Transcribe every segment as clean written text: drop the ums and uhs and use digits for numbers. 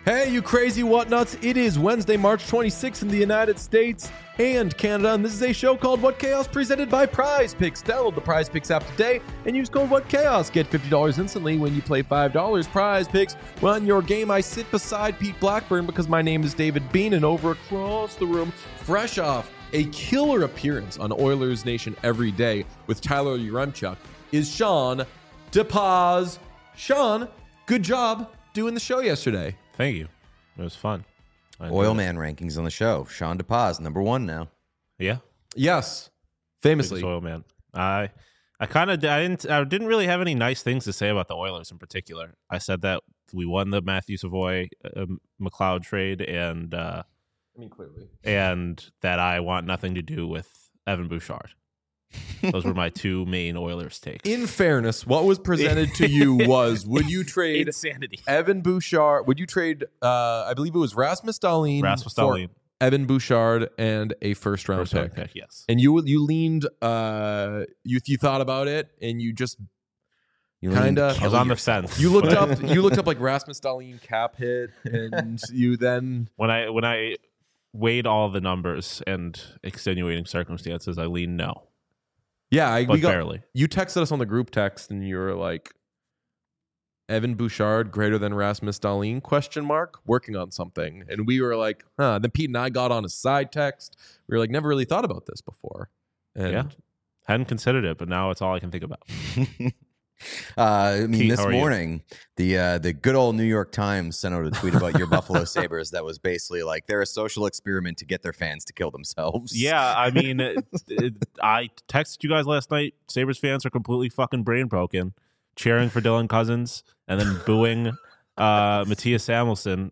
Hey, you crazy whatnuts. It is Wednesday, March 26th in the United States and Canada, and this is a show called What Chaos presented by Prize Picks. Download the Prize Picks app today and use code What Chaos. Get $50 instantly when you play $5. Prize Picks. Well, in your game, I sit beside Pete Blackburn because my name is David Bean, and over across the room, fresh off a killer appearance on Oilers Nation Every Day with Tyler Yaremchuk, is Sean DePaz. Sean, good job doing the show yesterday. Thank you. It was fun. Oil Man rankings on the show. Sean DePaz, number 1 now. Yeah. Yes. Famously. Biggest Oil Man. I didn't really have any nice things to say about the Oilers in particular. I said that we won the Matthew Savoy McLeod trade and clearly. And that I want nothing to do with Evan Bouchard. Those were my two main Oilers takes. In fairness, what was presented to you was, would you trade insanity Evan Bouchard? Would you trade, I believe it was Rasmus Dahlin for Evan Bouchard and a first-round pick? Yes. And you leaned, you thought about it, and you just kind of... I was on the fence. You looked up like Rasmus Dahlin cap hit, and you then... When I weighed all the numbers and extenuating circumstances, I leaned no. Yeah, barely. You texted us on the group text, and you were like, "Evan Bouchard greater than Rasmus Dahlin?" ? Working on something, and we were like, "Huh." Then Pete and I got on a side text. We were like, "Never really thought about this before." And yeah, hadn't considered it, but now it's all I can think about. Pete, this morning, the good old New York Times sent out a tweet about your Buffalo Sabres that was basically like they're a social experiment to get their fans to kill themselves. Yeah, I mean, I texted you guys last night. Sabres fans are completely fucking brain broken, cheering for Dylan Cousins and then booing Matthias Samuelsson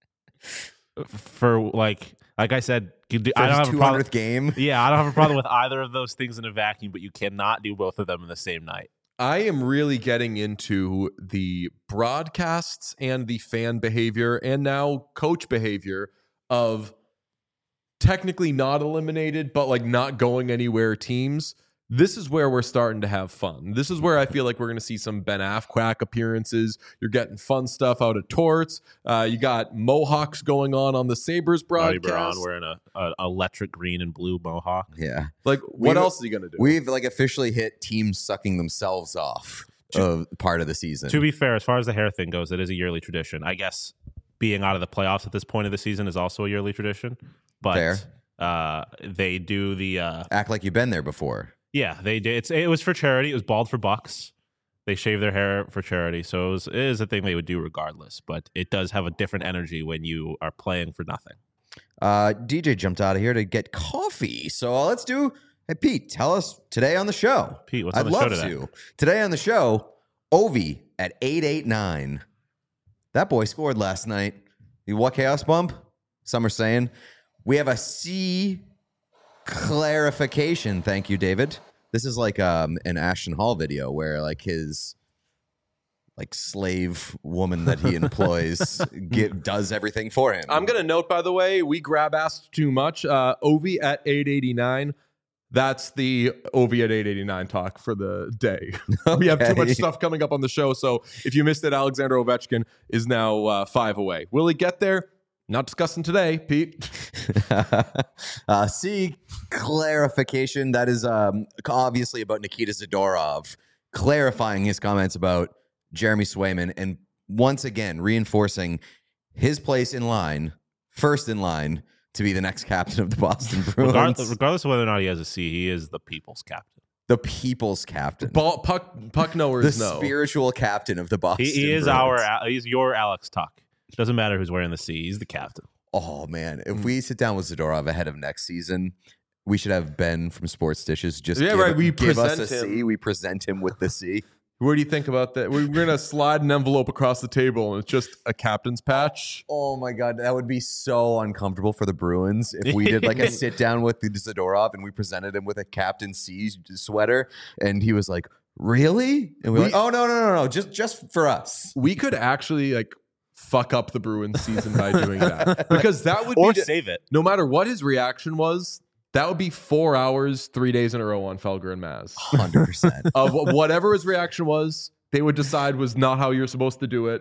for like I said. I don't have a problem with game. Yeah, I don't have a problem with either of those things in a vacuum, but you cannot do both of them in the same night. I am really getting into the broadcasts and the fan behavior and now coach behavior of technically not eliminated, but like not going anywhere teams. This is where we're starting to have fun. This is where I feel like we're going to see some Ben Affleck appearances. You're getting fun stuff out of Torts. You got Mohawks going on the Sabres broadcast. Braun wearing a electric green and blue Mohawk. Yeah. Like, what else is he going to do? We've like officially hit teams sucking themselves off of part of the season. To be fair, as far as the hair thing goes, it is a yearly tradition. I guess being out of the playoffs at this point of the season is also a yearly tradition. But fair. They do the act like you've been there before. Yeah, they did. It was for charity. It was Bald for Bucks. They shave their hair for charity. So it is a thing they would do regardless. But it does have a different energy when you are playing for nothing. DJ jumped out of here to get coffee. So let's do... Hey, Pete, tell us today on the show. Pete, what's on the show today? I'd love to. Today on the show, Ovi at 889. That boy scored last night. The What Chaos bump? Some are saying. We have a C... clarification. Thank you, David. This is like an Ashton Hall video where like his like slave woman that he employs does everything for him. I'm gonna note, by the way, we grab asked too much. Ovi at 889. That's the Ovi at 889 talk for the day. Okay. We have too much stuff coming up on the show, so if you missed it, Alexander Ovechkin is now 5 away. Will he get there? Not discussing today, Pete. C, clarification. That is obviously about Nikita Zadorov clarifying his comments about Jeremy Swayman and once again reinforcing his place in line, first in line, to be the next captain of the Boston Bruins. Regardless of whether or not he has a C, he is the people's captain. The people's captain. Puck knowers the spiritual captain of the Boston Bruins. He's your Alex Tuck. Doesn't matter who's wearing the C. He's the captain. Oh, man. If we sit down with Zadorov ahead of next season, we should have Ben from Sports Dishes just give us a C. We present him with the C. What do you think about that? We're going to slide an envelope across the table, and it's just a captain's patch. Oh, my God. That would be so uncomfortable for the Bruins if we did like a sit down with Zadorov and we presented him with a Captain C sweater, and he was like, really? And we're like, oh, no. Just for us. We could actually like fuck up the Bruins season by doing that, because that would save it. No matter what his reaction was, that would be 4 hours, 3 days in a row on Felger and Maz. 100%. Of whatever his reaction was, they would decide was not how you're supposed to do it,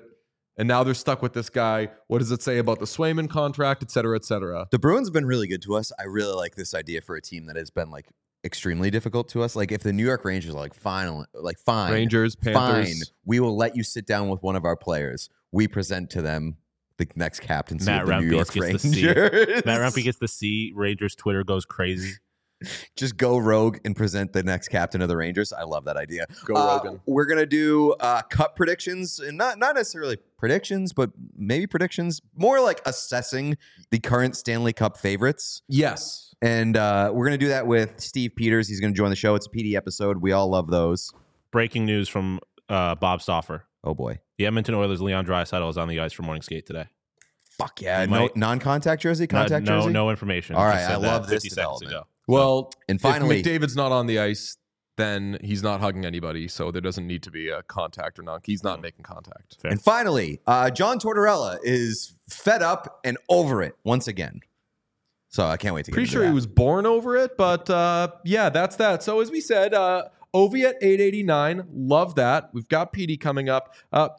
And now they're stuck with this guy. What does it say about the Swayman contract, et cetera, et cetera? The Bruins have been really good to us. I really like this idea for a team that has been like extremely difficult to us. Like if the New York Rangers are like, fine, Rangers, Panthers. fine, we will let you sit down with one of our players. We present to them the next captaincy Matt of the New York Rempes Rangers. Matt Rempes gets the C. Rangers Twitter goes crazy. Just go rogue and present the next captain of the Rangers. I love that idea. Go Rogan. We're gonna do cup predictions, and not necessarily predictions, but maybe predictions. More like assessing the current Stanley Cup favorites. Yes. And we're gonna do that with Steve Peters. He's gonna join the show. It's a PD episode. We all love those. Breaking news from Bob Stauffer. Oh boy. The Edmonton Oilers' Leon Draisaitl is on the ice for morning skate today. Fuck yeah. He No might- non-contact jersey? Contact no, jersey? no information. All He right, said I that love this 50 seconds development. ago. Well, And finally, if McDavid's not on the ice, then he's not hugging anybody. So there doesn't need to be a contact or not. He's not making contact. Fair. and finally, John Tortorella is fed up and over it once again. So I can't wait to get Pretty into sure that. he was born over it, but yeah, that's that. So as we said, Ovi at 889, love that. We've got PD coming up.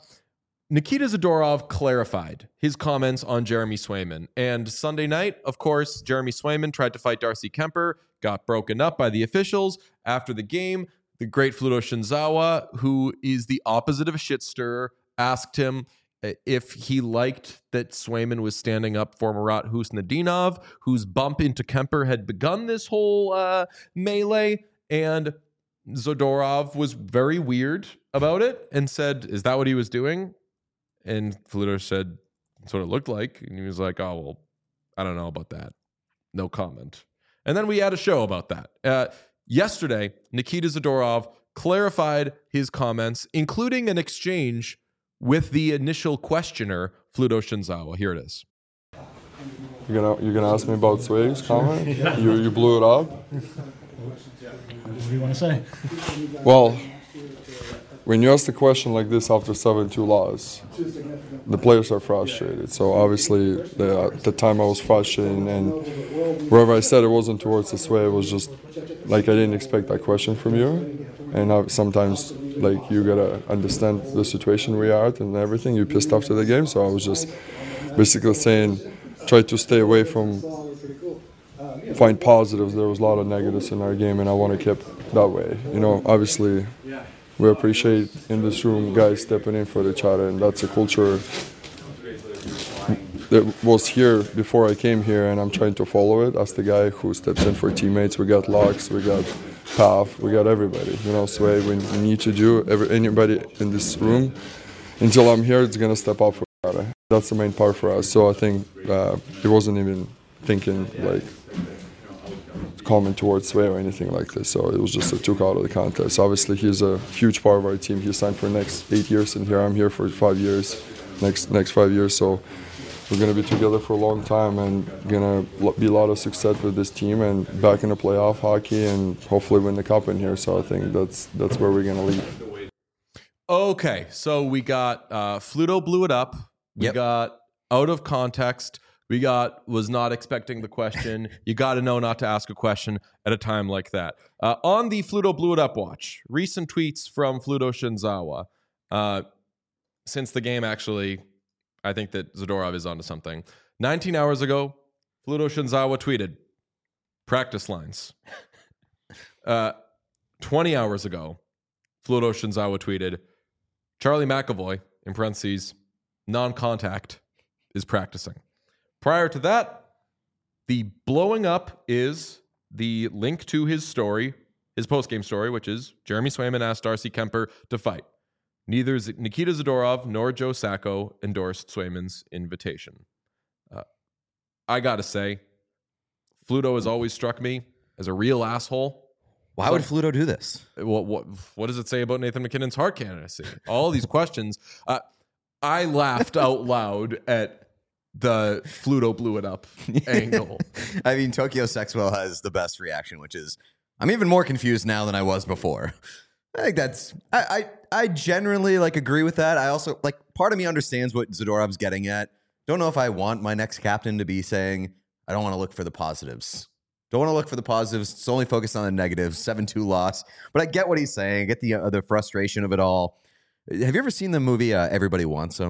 Nikita Zadorov clarified his comments on Jeremy Swayman. And Sunday night, of course, Jeremy Swayman tried to fight Darcy Kemper, got broken up by the officials. After the game, the great Fluto Shinzawa, who is the opposite of a shit stirrer, asked him if he liked that Swayman was standing up for Murat Husnudinov, whose bump into Kemper had begun this whole melee. And Zadorov was very weird about it and said, is that what he was doing? And Fluto said, that's what it looked like. And he was like, oh, well, I don't know about that. No comment. And then we had a show about that. Yesterday, Nikita Zadorov clarified his comments, including an exchange with the initial questioner, Fluto Shinzawa. Here it is. You're gonna ask me about Sway's comment? You blew it up? What do you want to say? Well, when you ask a question like this after 7-2 loss, the players are frustrated. So obviously, the time I was frustrated, and wherever I said it wasn't towards this way, it was just like I didn't expect that question from you. And sometimes, like, you gotta understand the situation we are at and everything. You're pissed after the game, so I was just basically saying, try to stay away from find positives. There was a lot of negatives in our game, and I want to keep that way. You know, obviously, we appreciate in this room guys stepping in for each other, and that's a culture that was here before I came here, and I'm trying to follow it as the guy who steps in for teammates. We got Lux, we got Pav, we got everybody. You know, so we need to do anybody in this room. Until I'm here, it's gonna step up for each other. That's the main part for us. So I think he wasn't even thinking like comment towards Sway or anything like this. So it was just a took out of the contest. Obviously, he's a huge part of our team. He signed for the next 8 years, and here I'm here for 5 years, next 5 years. So we're gonna be together for a long time, and gonna be a lot of success with this team and back in the playoff hockey, and hopefully win the cup in here. So I think that's where we're gonna lead. Okay, so we got Fluto blew it up. We Yep. got out of context. We got was not expecting the question. You got to know not to ask a question at a time like that. On the Fluto blew it up watch, recent tweets from Fluto Shinzawa. Since the game, actually, I think that Zadorov is onto something. 19 hours ago, Fluto Shinzawa tweeted, practice lines. 20 hours ago, Fluto Shinzawa tweeted, Charlie McAvoy, in parentheses, non-contact, is practicing. Prior to that, the blowing up is the link to his story, his post-game story, which is Jeremy Swayman asked Darcy Kemper to fight. Neither Nikita Zadorov nor Joe Sacco endorsed Swayman's invitation. I got to say, Fluto has always struck me as a real asshole. Why would Fluto do this? What does it say about Nathan McKinnon's Hart candidacy? All these questions. I laughed out loud at the Fluto blew it up angle. I mean, Tokyo Sexwell has the best reaction, which is, I'm even more confused now than I was before. I think that's, I generally like agree with that. I also, like, part of me understands what Zadorov's getting at. Don't know if I want my next captain to be saying, I don't want to look for the positives. Don't want to look for the positives. It's only focused on the negatives. 7-2 loss. But I get what he's saying. I get the frustration of it all. Have you ever seen the movie Everybody Wants Him?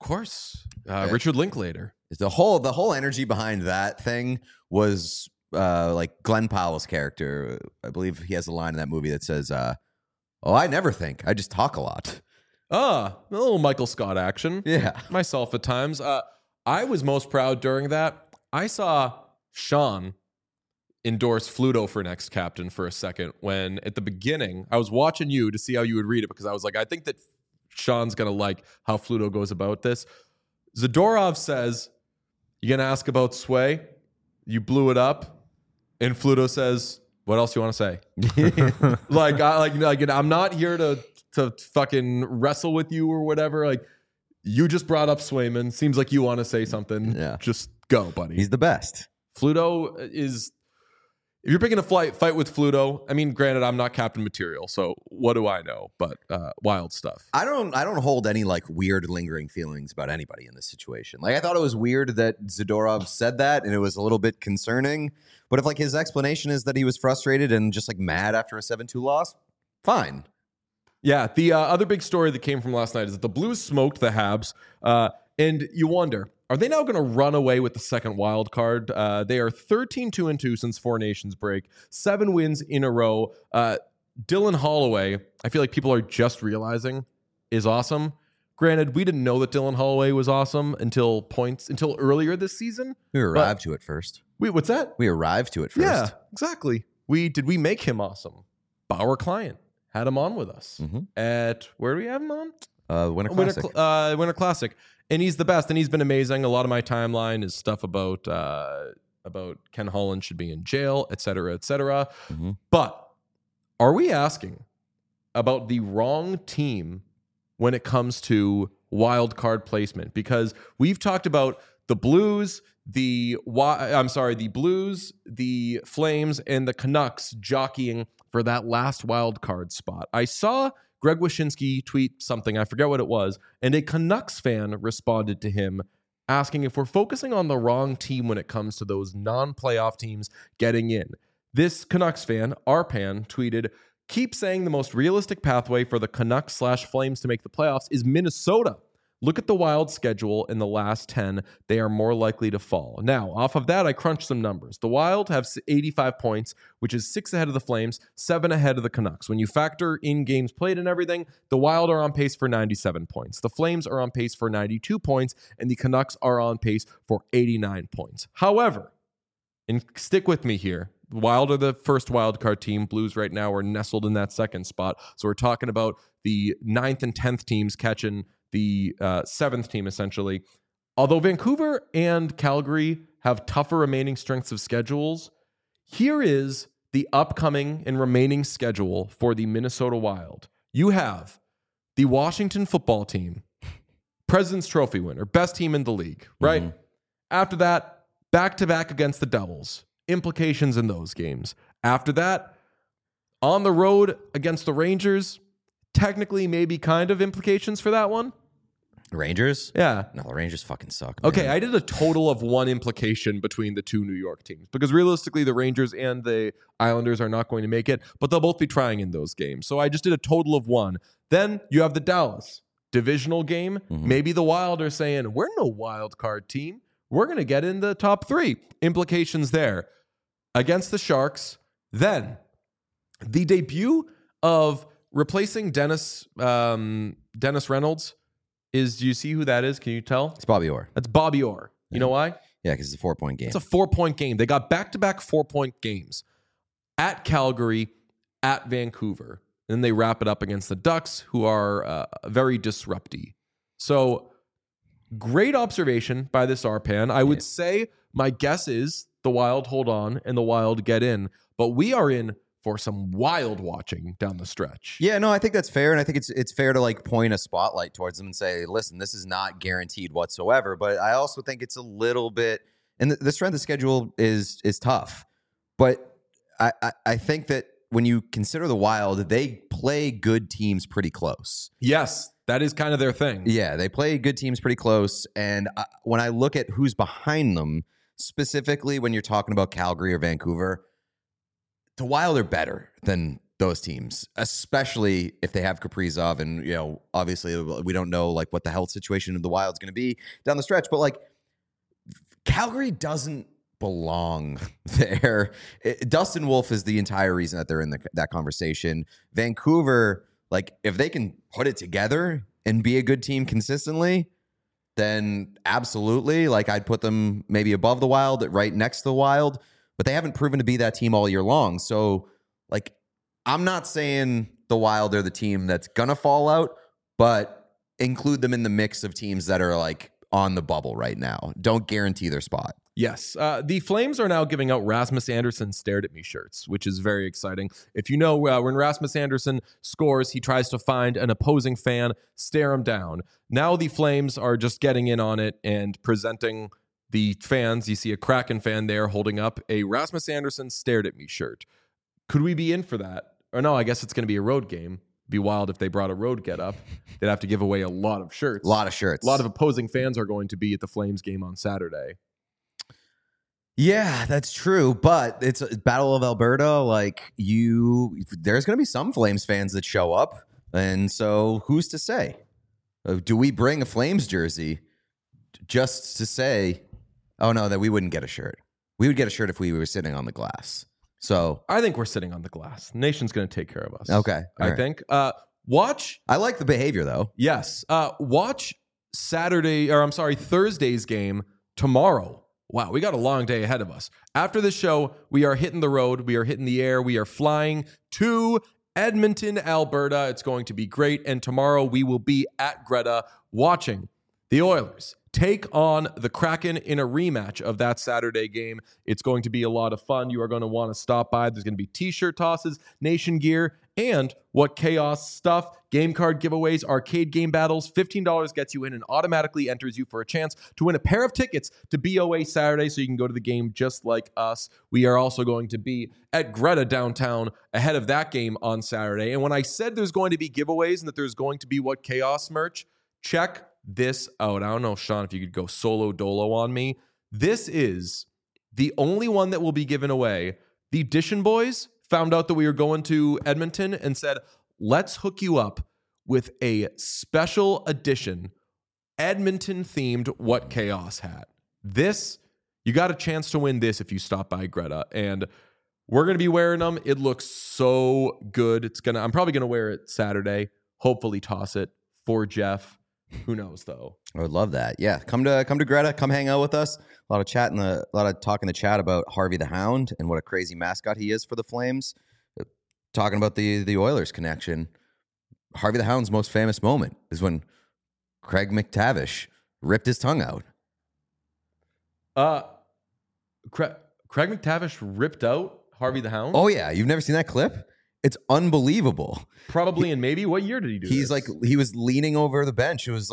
course. Richard Linklater. The whole energy behind that thing was like Glenn Powell's character. I believe he has a line in that movie that says, "Oh, I never think. I just talk a lot." A little Michael Scott action. Yeah. Myself at times. I was most proud during that. I saw Sean endorse Fluto for next captain for a second when at the beginning I was watching you to see how you would read it because I was like, I think that Sean's going to like how Fluto goes about this. Zadorov says, "You going to ask about Sway? You blew it up." And Fluto says, "What else you want to say?" like I'm not here to fucking wrestle with you or whatever. Like, you just brought up Swayman. Seems like you want to say something. Yeah. Just go, buddy. He's the best. Fluto is... If you're picking a fight with Fluto, I mean, granted, I'm not captain material, so what do I know? But wild stuff. I don't hold any like weird lingering feelings about anybody in this situation. Like, I thought it was weird that Zadorov said that, and it was a little bit concerning. But if like his explanation is that he was frustrated and just like mad after a 7-2 loss, fine. Yeah, the other big story that came from last night is that the Blues smoked the Habs, and you wonder, are they now going to run away with the second wild card? They are 13-2-2 since Four Nations break, 7 wins in a row. Dylan Holloway, I feel like people are just realizing, is awesome. Granted, we didn't know that Dylan Holloway was awesome until earlier this season. We arrived to it first. What's that? We arrived to it first. Yeah, exactly. Did we make him awesome? Bauer Client had him on with us at, where do we have him on? Winter Classic. Winter Classic. And he's the best, and he's been amazing. A lot of my timeline is stuff about Ken Holland should be in jail, et cetera, et cetera. But are we asking about the wrong team when it comes to wild card placement? Because we've talked about the Blues, the Flames, and the Canucks jockeying for that last wild card spot. I saw Greg Wyshynski tweet something, I forget what it was, and a Canucks fan responded to him asking if we're focusing on the wrong team when it comes to those non-playoff teams getting in. This Canucks fan, Arpan, tweeted, "Keep saying the most realistic pathway for the Canucks/Flames to make the playoffs is Minnesota. Look at the Wild schedule in the last 10. They are more likely to fall." Now, off of that, I crunched some numbers. The Wild have 85 points, which is 6 ahead of the Flames, 7 ahead of the Canucks. When you factor in games played and everything, the Wild are on pace for 97 points. The Flames are on pace for 92 points, and the Canucks are on pace for 89 points. However, and stick with me here, the Wild are the first wild card team. Blues right now are nestled in that second spot. So we're talking about the 9th and 10th teams catching the 7th team, essentially. Although Vancouver and Calgary have tougher remaining strengths of schedules, here is the upcoming and remaining schedule for the Minnesota Wild. You have the Washington football team, President's Trophy winner, best team in the league, right? After that, back-to-back against the Devils. Implications in those games. After that, on the road against the Rangers, technically maybe kind of implications for that one. Rangers? Yeah. No, the Rangers fucking suck, man. Okay, I did a total of 1 implication between the 2 New York teams because realistically the Rangers and the Islanders are not going to make it, but they'll both be trying in those games. So I just did a total of 1. Then you have the Dallas divisional game. Maybe the Wild are saying, we're no wild card team. We're going to get in the top 3. Implications there. Against the Sharks. Then the debut of replacing Dennis Reynolds is, do you see who that is? Can you tell? It's Bobby Orr. That's Bobby Orr. You know why? Yeah, because it's a 4-point game. It's a 4-point game. They got back-to-back 4-point games at Calgary, at Vancouver. And then they wrap it up against the Ducks, who are very disrupty. So great observation by this Arpan. I would say my guess is the Wild hold on and the Wild get in. But we are in for some wild watching down the stretch. Yeah, no, I think that's fair. And I think it's fair to like point a spotlight towards them and say, listen, this is not guaranteed whatsoever. But I also think it's a little bit, and the strength of schedule is tough. But I think that when you consider the Wild, they play good teams pretty close. Yes, that is kind of their thing. Yeah, they play good teams pretty close. And when I look at who's behind them, specifically when you're talking about Calgary or Vancouver, the Wild are better than those teams, especially if they have Kaprizov, and obviously we don't know like what the health situation of the Wild's going to be down the stretch, but like Calgary doesn't belong there. Dustin Wolf is the entire reason that they're in that conversation. Vancouver, like if they can put it together and be a good team consistently, then absolutely, like I'd put them maybe above the Wild, right next to the Wild, but they haven't proven to be that team all year long. So like, I'm not saying the Wild are the team that's gonna fall out, but include them in the mix of teams that are like on the bubble right now. Don't guarantee their spot. Yes. The Flames are now giving out Rasmus Anderson stared at me shirts, which is very exciting. If you know, when Rasmus Anderson scores, he tries to find an opposing fan, stare him down. Now the Flames are just getting in on it and presenting the fans. You see a Kraken fan there holding up a Rasmus Anderson stared at me shirt. Could we be in for that? Or no, I guess it's going to be a road game. Be wild if they brought a road get up. They'd have to give away a lot of shirts. A lot of shirts. A lot of opposing fans are going to be at the Flames game on Saturday. Yeah, that's true. But it's a Battle of Alberta. Like there's going to be some Flames fans that show up. And so who's to say? Do we bring a Flames jersey just to say, oh no, that we wouldn't get a shirt? We would get a shirt if we were sitting on the glass. So I think we're sitting on the glass. The nation's going to take care of us. Okay. I think. Watch. I like the behavior though. Yes. Watch Thursday's game tomorrow. Wow, we got a long day ahead of us. After the show, we are hitting the road. We are hitting the air. We are flying to Edmonton, Alberta. It's going to be great. And tomorrow we will be at Greta watching the Oilers take on the Kraken in a rematch of that Saturday game. It's going to be a lot of fun. You are going to want to stop by. There's going to be t-shirt tosses, nation gear, and What Chaos stuff, game card giveaways, arcade game battles. $15 gets you in and automatically enters you for a chance to win a pair of tickets to BOA Saturday so you can go to the game just like us. We are also going to be at Greta downtown ahead of that game on Saturday. And when I said there's going to be giveaways and that there's going to be What Chaos merch, check this out. I don't know, Sean, if you could go solo dolo on me. This is the only one that will be given away. The Dishon Boys found out that we were going to Edmonton and said, let's hook you up with a special edition Edmonton-themed What Chaos hat. This, you got a chance to win this if you stop by Greta. And we're going to be wearing them. It looks so good. I'm probably going to wear it Saturday. Hopefully toss it for Jeff. Who knows though? I would love that. Yeah, come to Greta. Come hang out with us. A lot of talk in the chat about Harvey the Hound and what a crazy mascot he is for the Flames. Talking about the Oilers connection. Harvey the Hound's most famous moment is when Craig McTavish ripped his tongue out. Craig McTavish ripped out Harvey the Hound? Oh yeah, you've never seen that clip? It's unbelievable. Probably in maybe what year did he do He's this? like, he was leaning over the bench. It was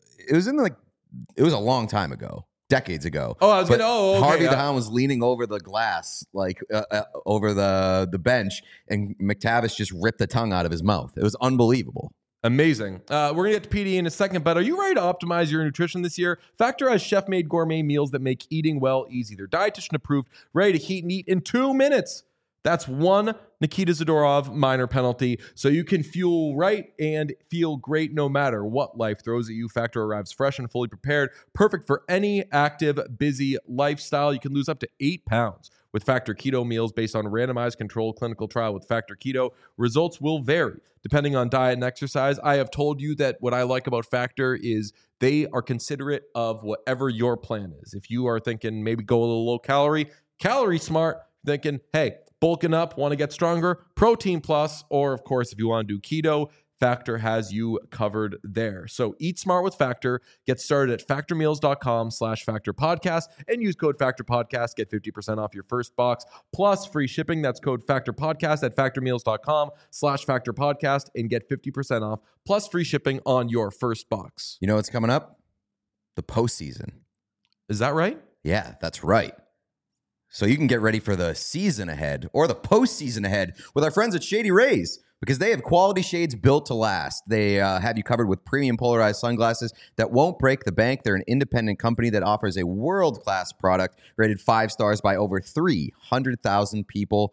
a long time ago, decades ago. Oh, I was But okay. Harvey the Hound was leaning over the glass, like over the bench, and McTavish just ripped the tongue out of his mouth. It was unbelievable. Amazing. We're going to get to PD in a second, but are you ready to optimize your nutrition this year? Factor has chef-made gourmet meals that make eating well easy. They're dietitian approved, ready to heat and eat in 2 minutes. That's one Nikita Zadorov minor penalty, so you can fuel right and feel great no matter what life throws at you. Factor arrives fresh and fully prepared, perfect for any active, busy lifestyle. You can lose up to 8 pounds with Factor Keto meals based on a randomized controlled clinical trial with Factor Keto. Results will vary depending on diet and exercise. I have told you that what I like about Factor is they are considerate of whatever your plan is. If you are thinking maybe go a little low calorie smart, thinking, hey, bulking up, want to get stronger, Protein Plus, or of course, if you want to do keto, Factor has you covered there. So eat smart with Factor. Get started at factormeals.com/factorpodcast and use code factorpodcast. Get 50% off your first box plus free shipping. That's code factorpodcast at factormeals.com/factorpodcast and get 50% off plus free shipping on your first box. You know what's coming up? The postseason. Is that right? Yeah, that's right. So you can get ready for the season ahead or the postseason ahead with our friends at Shady Rays, because they have quality shades built to last. They have you covered with premium polarized sunglasses that won't break the bank. They're an independent company that offers a world-class product rated 5 stars by over 300,000 people.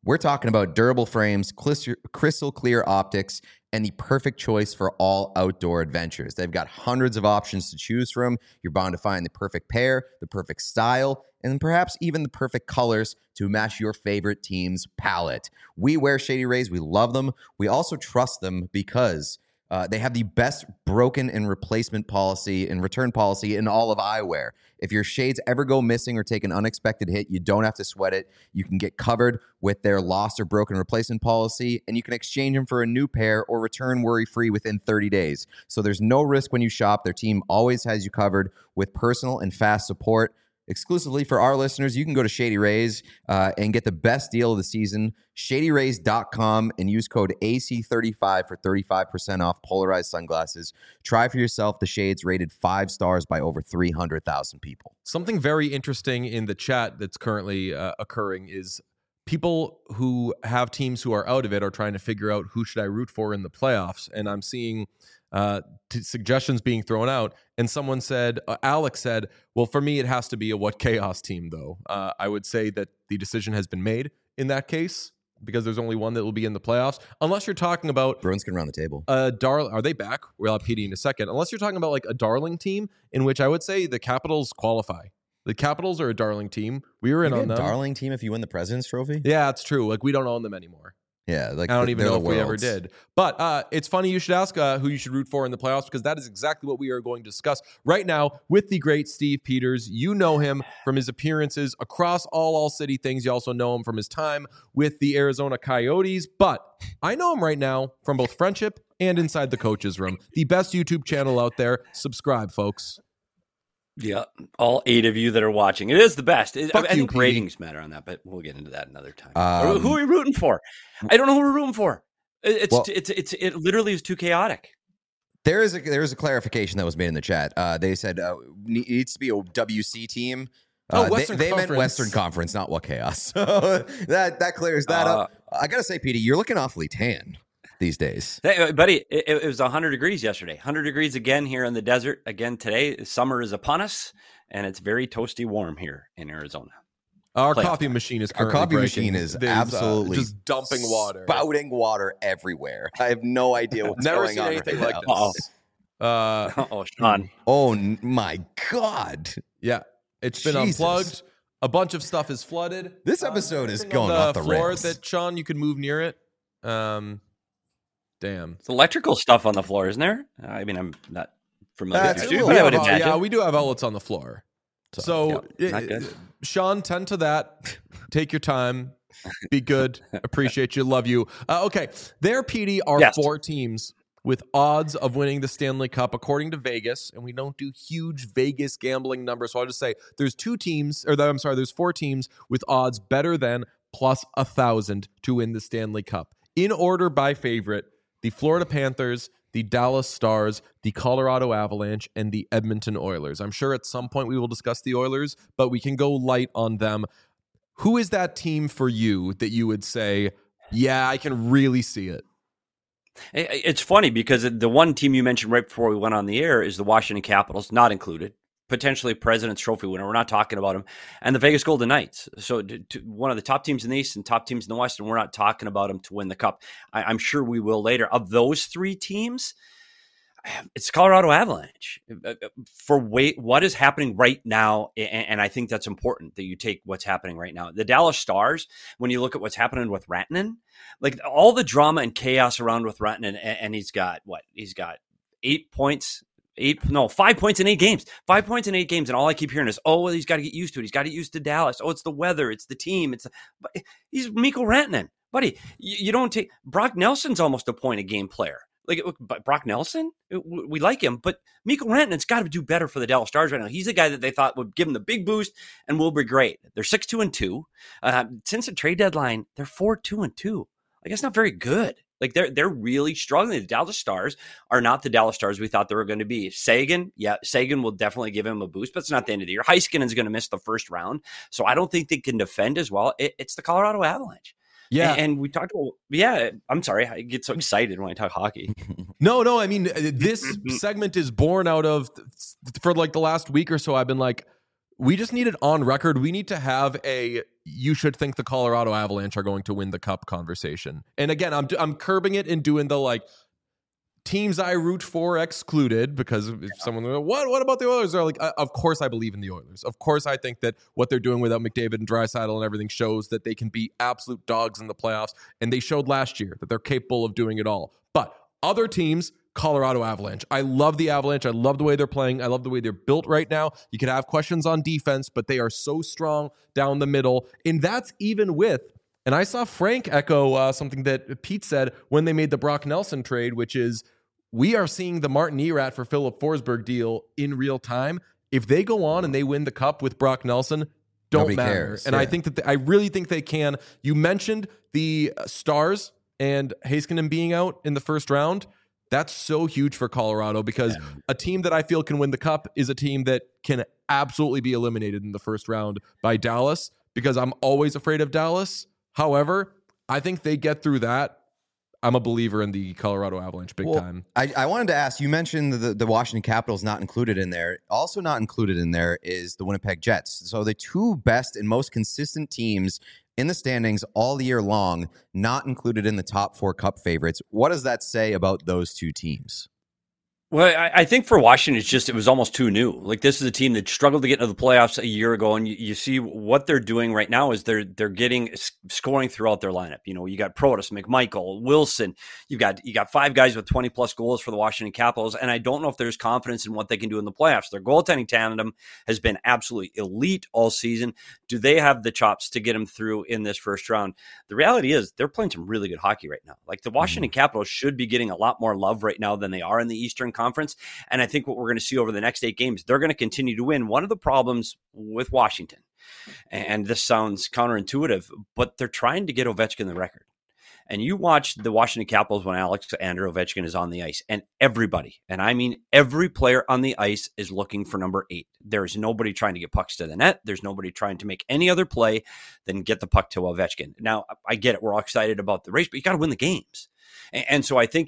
We're talking about durable frames, crystal clear optics, and the perfect choice for all outdoor adventures. They've got hundreds of options to choose from. You're bound to find the perfect pair, the perfect style, and perhaps even the perfect colors to match your favorite team's palette. We wear Shady Rays. We love them. We also trust them because they have the best broken and replacement policy and return policy in all of eyewear. If your shades ever go missing or take an unexpected hit, you don't have to sweat it. You can get covered with their lost or broken replacement policy, and you can exchange them for a new pair or return worry-free within 30 days. So there's no risk when you shop. Their team always has you covered with personal and fast support. Exclusively for our listeners, you can go to Shady Rays and get the best deal of the season, shadyrays.com, and use code AC35 for 35% off polarized sunglasses. Try for yourself the shades rated 5 stars by over 300,000 people. Something very interesting in the chat that's currently occurring is people who have teams who are out of it are trying to figure out who should I root for in the playoffs. And I'm seeing suggestions being thrown out. And someone said, Alex said, well, for me, it has to be a What Chaos team, though. I would say that the decision has been made in that case because there's only one that will be in the playoffs. Unless you're talking about... Bruins can run the table. Are they back? We'll have PD in a second. Unless you're talking about like a darling team, in which I would say the Capitals qualify. The Capitals are a darling team. We were in on them. Darling team if you win the President's Trophy? Yeah, it's true. Like, we don't own them anymore. Yeah, like I don't even know if we ever did. But it's funny you should ask who you should root for in the playoffs, because that is exactly what we are going to discuss right now with the great Steve Peters. You know him from his appearances across all city things. You also know him from his time with the Arizona Coyotes. But I know him right now from both Friendship and Inside the Coaches Room, the best YouTube channel out there. Subscribe, folks. Yeah, all 8 of you that are watching. It is the best. I think Pete. ratings matter on that, but we'll get into that another time. Who are we rooting for? I don't know who we're rooting for. It literally is too chaotic. There is a clarification that was made in the chat. They said it needs to be a WC team. Western they Conference. meant Western Conference, not What Chaos. So that clears that up. I gotta say, Petey, you're looking awfully tan these days. Hey, buddy, it was 100 degrees yesterday. 100 degrees again here in the desert. Again today. Summer is upon us, and it's very toasty warm here in Arizona. Our coffee machine is currently breaking. Absolutely just dumping water. Spouting water everywhere. I have no idea what's Never going seen on anything right like now. this. Sean. Oh my God. Yeah, it's been Jesus. unplugged. A bunch of stuff is flooded. This episode is Anything going on off the floor rails. that, Sean, you could move near it. Damn. It's electrical stuff on the floor, isn't there? I mean, I'm not familiar That's with a you, little- but I would Yeah, imagine. Yeah, we do have outlets on the floor. So, not good. Sean, tend to that. Take your time. Be good. Appreciate you. Love you. Okay. There, PD, are Yes. 4 teams with odds of winning the Stanley Cup, according to Vegas. And we don't do huge Vegas gambling numbers. So I'll just say there's 4 teams with odds better than plus 1,000 to win the Stanley Cup. In order by favorite, the Florida Panthers, the Dallas Stars, the Colorado Avalanche, and the Edmonton Oilers. I'm sure at some point we will discuss the Oilers, but we can go light on them. Who is that team for you that you would say, yeah, I can really see it? It's funny because the one team you mentioned right before we went on the air is the Washington Capitals, not included. Potentially President's Trophy winner. We're not talking about them. And the Vegas Golden Knights. So one of the top teams in the East and top teams in the West, and we're not talking about them to win the Cup. I'm sure we will later. Of those 3 teams, it's Colorado Avalanche. For what is happening right now, and I think that's important that you take what's happening right now. The Dallas Stars, when you look at what's happening with Rantanen, like all the drama and chaos around with Rantanen, and he's got 8 points. 5 points in 8 games. 5 points in 8 games, and all I keep hearing is, "Oh, well, he's got to get used to it. He's got to get used to Dallas. Oh, it's the weather. It's the team. But he's Mikko Rantanen, buddy. You don't take Brock Nelson's almost a point a game player. Like Brock Nelson, we like him, but Mikko Rantanen's got to do better for the Dallas Stars right now. He's the guy that they thought would give him the big boost and will be great. They're 6-2-2. Since the trade deadline, they're 4-2-2. Like that's not very good. Like they're really struggling. The Dallas Stars are not the Dallas Stars we thought they were going to be. Sagan will definitely give him a boost, but it's not the end of the year. Heiskanen's going to miss the first round, so I don't think they can defend as well. It's the Colorado Avalanche. Yeah. And we talked about, I'm sorry. I get so excited when I talk hockey. No. I mean, this segment is born out of, for like the last week or so, I've been like, we just need it on record. We need to have you should think the Colorado Avalanche are going to win the cup conversation. And again, I'm curbing it and doing the like teams I root for excluded, because if someone what about the Oilers? They're like, of course I believe in the Oilers. Of course I think that what they're doing without McDavid and Draisaitl and everything shows that they can be absolute dogs in the playoffs, and they showed last year that they're capable of doing it all. But other teams, Colorado Avalanche. I love the Avalanche. I love the way they're playing. I love the way they're built right now. You could have questions on defense, but they are so strong down the middle, and that's even with. And I saw Frank echo something that Pete said when they made the Brock Nelson trade, which is, we are seeing the Martin Erat for Philip Forsberg deal in real time. If they go on and they win the cup with Brock Nelson, don't Nobody matter. cares. And I think that I really think they can. You mentioned the Stars and Heiskanen being out in the first round. That's so huge for Colorado, because a team that I feel can win the cup is a team that can absolutely be eliminated in the first round by Dallas, because I'm always afraid of Dallas. However, I think they get through that. I'm a believer in the Colorado Avalanche big time. I wanted to ask, you mentioned the Washington Capitals not included in there. Also not included in there is the Winnipeg Jets. So the two best and most consistent teams in the standings all year long, not included in the top 4 cup favorites. What does that say about those two teams? Well, I think for Washington, it was almost too new. Like, this is a team that struggled to get into the playoffs a year ago, and you see what they're doing right now is they're getting scoring throughout their lineup. You know, you got Protas, McMichael, Wilson. You got 5 guys with 20+ goals for the Washington Capitals, and I don't know if there's confidence in what they can do in the playoffs. Their goaltending tandem has been absolutely elite all season. Do they have the chops to get them through in this first round? The reality is they're playing some really good hockey right now. Like, the Washington Capitals should be getting a lot more love right now than they are in the Eastern Conference. And I think what we're going to see over the next 8 games, they're going to continue to win. One of the problems with Washington, and this sounds counterintuitive, but they're trying to get Ovechkin the record. And you watch the Washington Capitals when Alexander Ovechkin is on the ice, and everybody, and I mean every player on the ice, is looking for number 8. There's nobody trying to get pucks to the net. There's nobody trying to make any other play than get the puck to Ovechkin. Now, I get it. We're all excited about the race, but you got to win the games. And so I think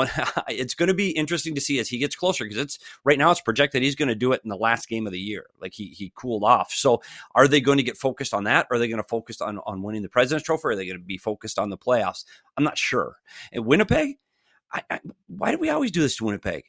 it's going to be interesting to see as he gets closer, because right now it's projected he's going to do it in the last game of the year. Like, he cooled off. So are they going to get focused on that? Or are they going to focus on winning the President's Trophy? Or are they going to be focused on the playoffs? I'm not sure. And Winnipeg, why do we always do this to Winnipeg?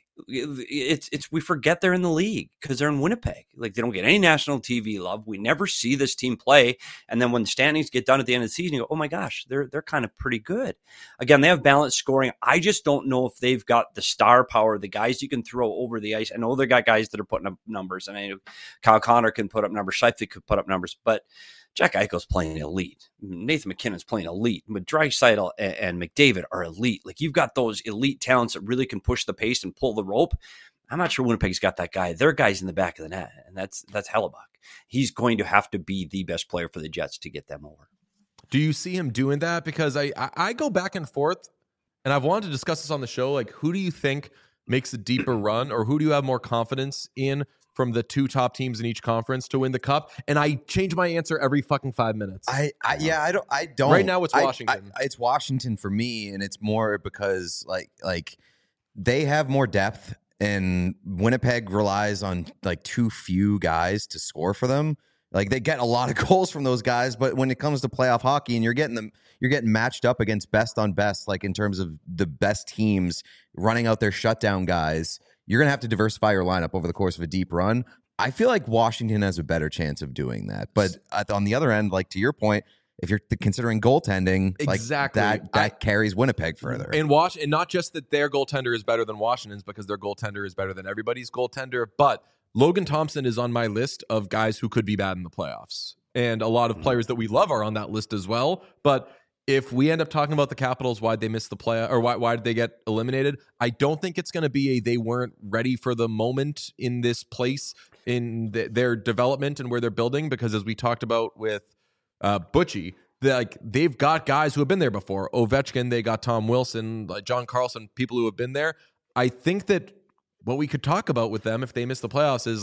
We forget they're in the league because they're in Winnipeg. Like, they don't get any national TV love. We never see this team play. And then when the standings get done at the end of the season, you go, oh my gosh, they're kind of pretty good. Again, they have balanced scoring. I just don't know if they've got the star power, the guys you can throw over the ice. I know they got guys that are putting up numbers, and I know Kyle Connor can put up numbers. Scheifele could put up numbers, but Jack Eichel's playing elite. Nathan MacKinnon's playing elite. But Draisaitl and McDavid are elite. Like, you've got those elite talents that really can push the pace and pull the rope. I'm not sure Winnipeg's got that guy. Their guy's in the back of the net, and that's Hellebuck. He's going to have to be the best player for the Jets to get them over. Do you see him doing that? Because I go back and forth, and I've wanted to discuss this on the show. Like, who do you think makes a deeper run, or who do you have more confidence in from the 2 top teams in each conference to win the cup? And I change my answer every fucking 5 minutes. I don't. Right now it's Washington. It's Washington for me, and it's more because like they have more depth, and Winnipeg relies on like too few guys to score for them. Like, they get a lot of goals from those guys, but when it comes to playoff hockey and you're getting matched up against best on best, like in terms of the best teams running out their shutdown guys, you're going to have to diversify your lineup over the course of a deep run. I feel like Washington has a better chance of doing that. But on the other end, like, to your point, if you're considering goaltending, exactly, like that carries Winnipeg further. And not just that their goaltender is better than Washington's, because their goaltender is better than everybody's goaltender, but Logan Thompson is on my list of guys who could be bad in the playoffs. And a lot of players that we love are on that list as well. But if we end up talking about the Capitals, why'd they miss the play, or why did they get eliminated? I don't think it's going to be they weren't ready for the moment in this place in their development and where they're building, because as we talked about with Butchie, they've got guys who have been there before. Ovechkin, they got Tom Wilson, like John Carlson, people who have been there. I think that what we could talk about with them if they miss the playoffs is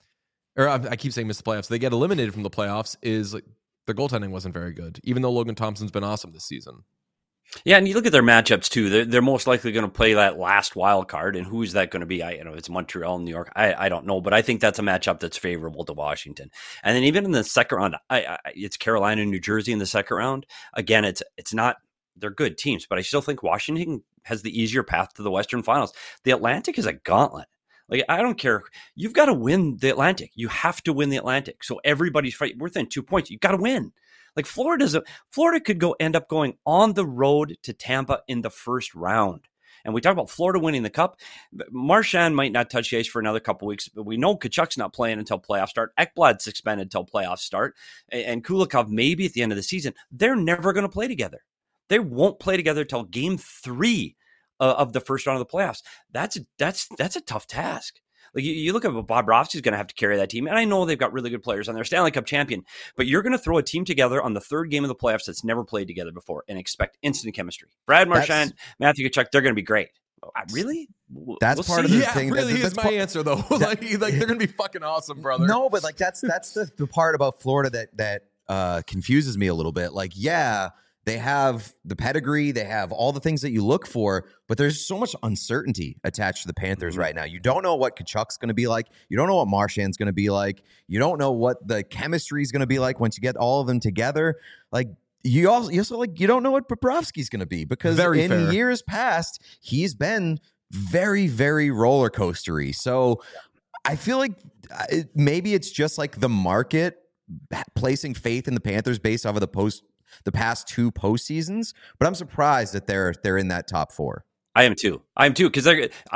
I keep saying miss the playoffs, they get eliminated from the playoffs, is like their goaltending wasn't very good, even though Logan Thompson's been awesome this season. Yeah, and you look at their matchups too. They're most likely going to play that last wild card, and who is that going to be? It's Montreal, New York. I don't know, but I think that's a matchup that's favorable to Washington. And then even in the second round, it's Carolina, New Jersey in the second round. Again, it's not. They're good teams, but I still think Washington has the easier path to the Western Finals. The Atlantic is a gauntlet. Like, I don't care. You've got to win the Atlantic. You have to win the Atlantic. So everybody's fighting. We're within 2 points. You've got to win. Like Florida could end up going on the road to Tampa in the first round. And we talk about Florida winning the Cup. Marchand might not touch the ice for another couple weeks, but we know Kachuk's not playing until playoffs start. Ekblad's suspended until playoffs start. And Kulikov maybe at the end of the season. They're never going to play together. They won't play together till game 3 of the first round of the playoffs. That's a tough task. Like you look at what Bobrovsky's going to have to carry that team, and I know they've got really good players on their Stanley Cup champion, but you're going to throw a team together on the third game of the playoffs that's never played together before and expect instant chemistry. Brad Marchand, Matthew Tkachuk, they're going to be great. Really? That's part of the thing. Really is my answer though. like they're going to be fucking awesome, brother. No, but like that's the part about Florida that confuses me a little bit. Like, yeah, they have the pedigree, they have all the things that you look for, but there's so much uncertainty attached to the Panthers right now. You don't know what Kachuk's going to be like. You don't know what Marchand's going to be like. You don't know what the chemistry is going to be like once you get all of them together. Like you also like you don't know what Bobrovsky's going to be because in years past he's been very, very roller coastery. So I feel like maybe it's just like the market placing faith in the Panthers based off of the past 2 postseasons, but I'm surprised that they're in that top 4. I am too because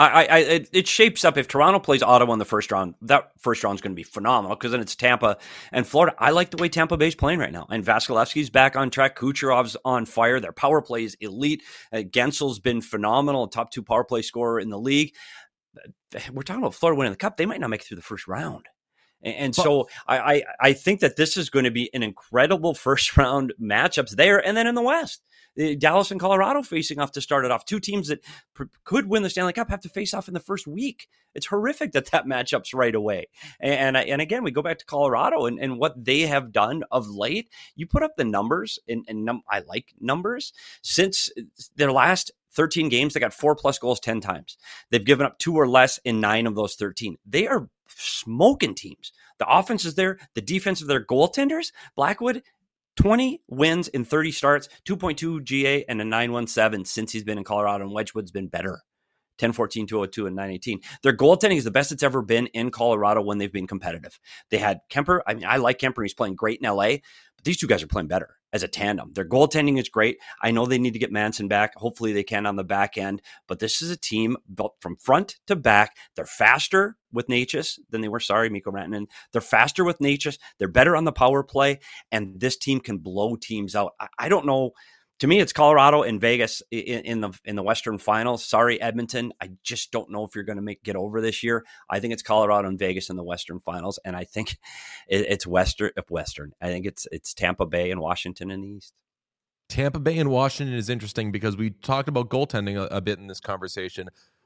it shapes up. If Toronto plays Ottawa in the first round, that first round is going to be phenomenal because then it's Tampa and Florida. I like the way Tampa Bay's playing right now, and Vasilevsky's back on track. Kucherov's on fire. Their power play is elite. Gensel's been phenomenal, top 2 power play scorer in the league. We're talking about Florida winning the Cup. They might not make it through the first round. And so I think that this is going to be an incredible first round matchups there. And then in the West, Dallas and Colorado facing off to start it off. 2 teams that could win the Stanley Cup have to face off in the first week. It's horrific that matchup's right away. And again, we go back to Colorado and what they have done of late. You put up the numbers, and I like numbers. Since their last 13 games, they got 4+ goals 10 times. They've given up 2 or less in 9 of those 13. They are smoking teams. The offense is there. The defense of their goaltenders, Blackwood, 20 wins in 30 starts, 2.2 GA and a 917 since he's been in Colorado, and Wedgwood's been better. 10-14, 202, and 918. Their goaltending is the best it's ever been in Colorado when they've been competitive. They had Kemper. I mean, I like Kemper. He's playing great in LA, but these 2 guys are playing better as a tandem. Their goaltending is great. I know they need to get Manson back. Hopefully they can on the back end, but this is a team built from front to back. They're faster with Necas than they were. Sorry, Mikko Rantanen. They're faster with Necas. They're better on the power play, and this team can blow teams out. I don't know. To me, it's Colorado and Vegas in the Western Finals. Sorry, Edmonton. I just don't know if you're going to get over this year. I think it's Colorado and Vegas in the Western Finals, and I think it's Western. I think it's Tampa Bay and Washington in the East. Tampa Bay and Washington is interesting because we talked about goaltending a bit in this conversation.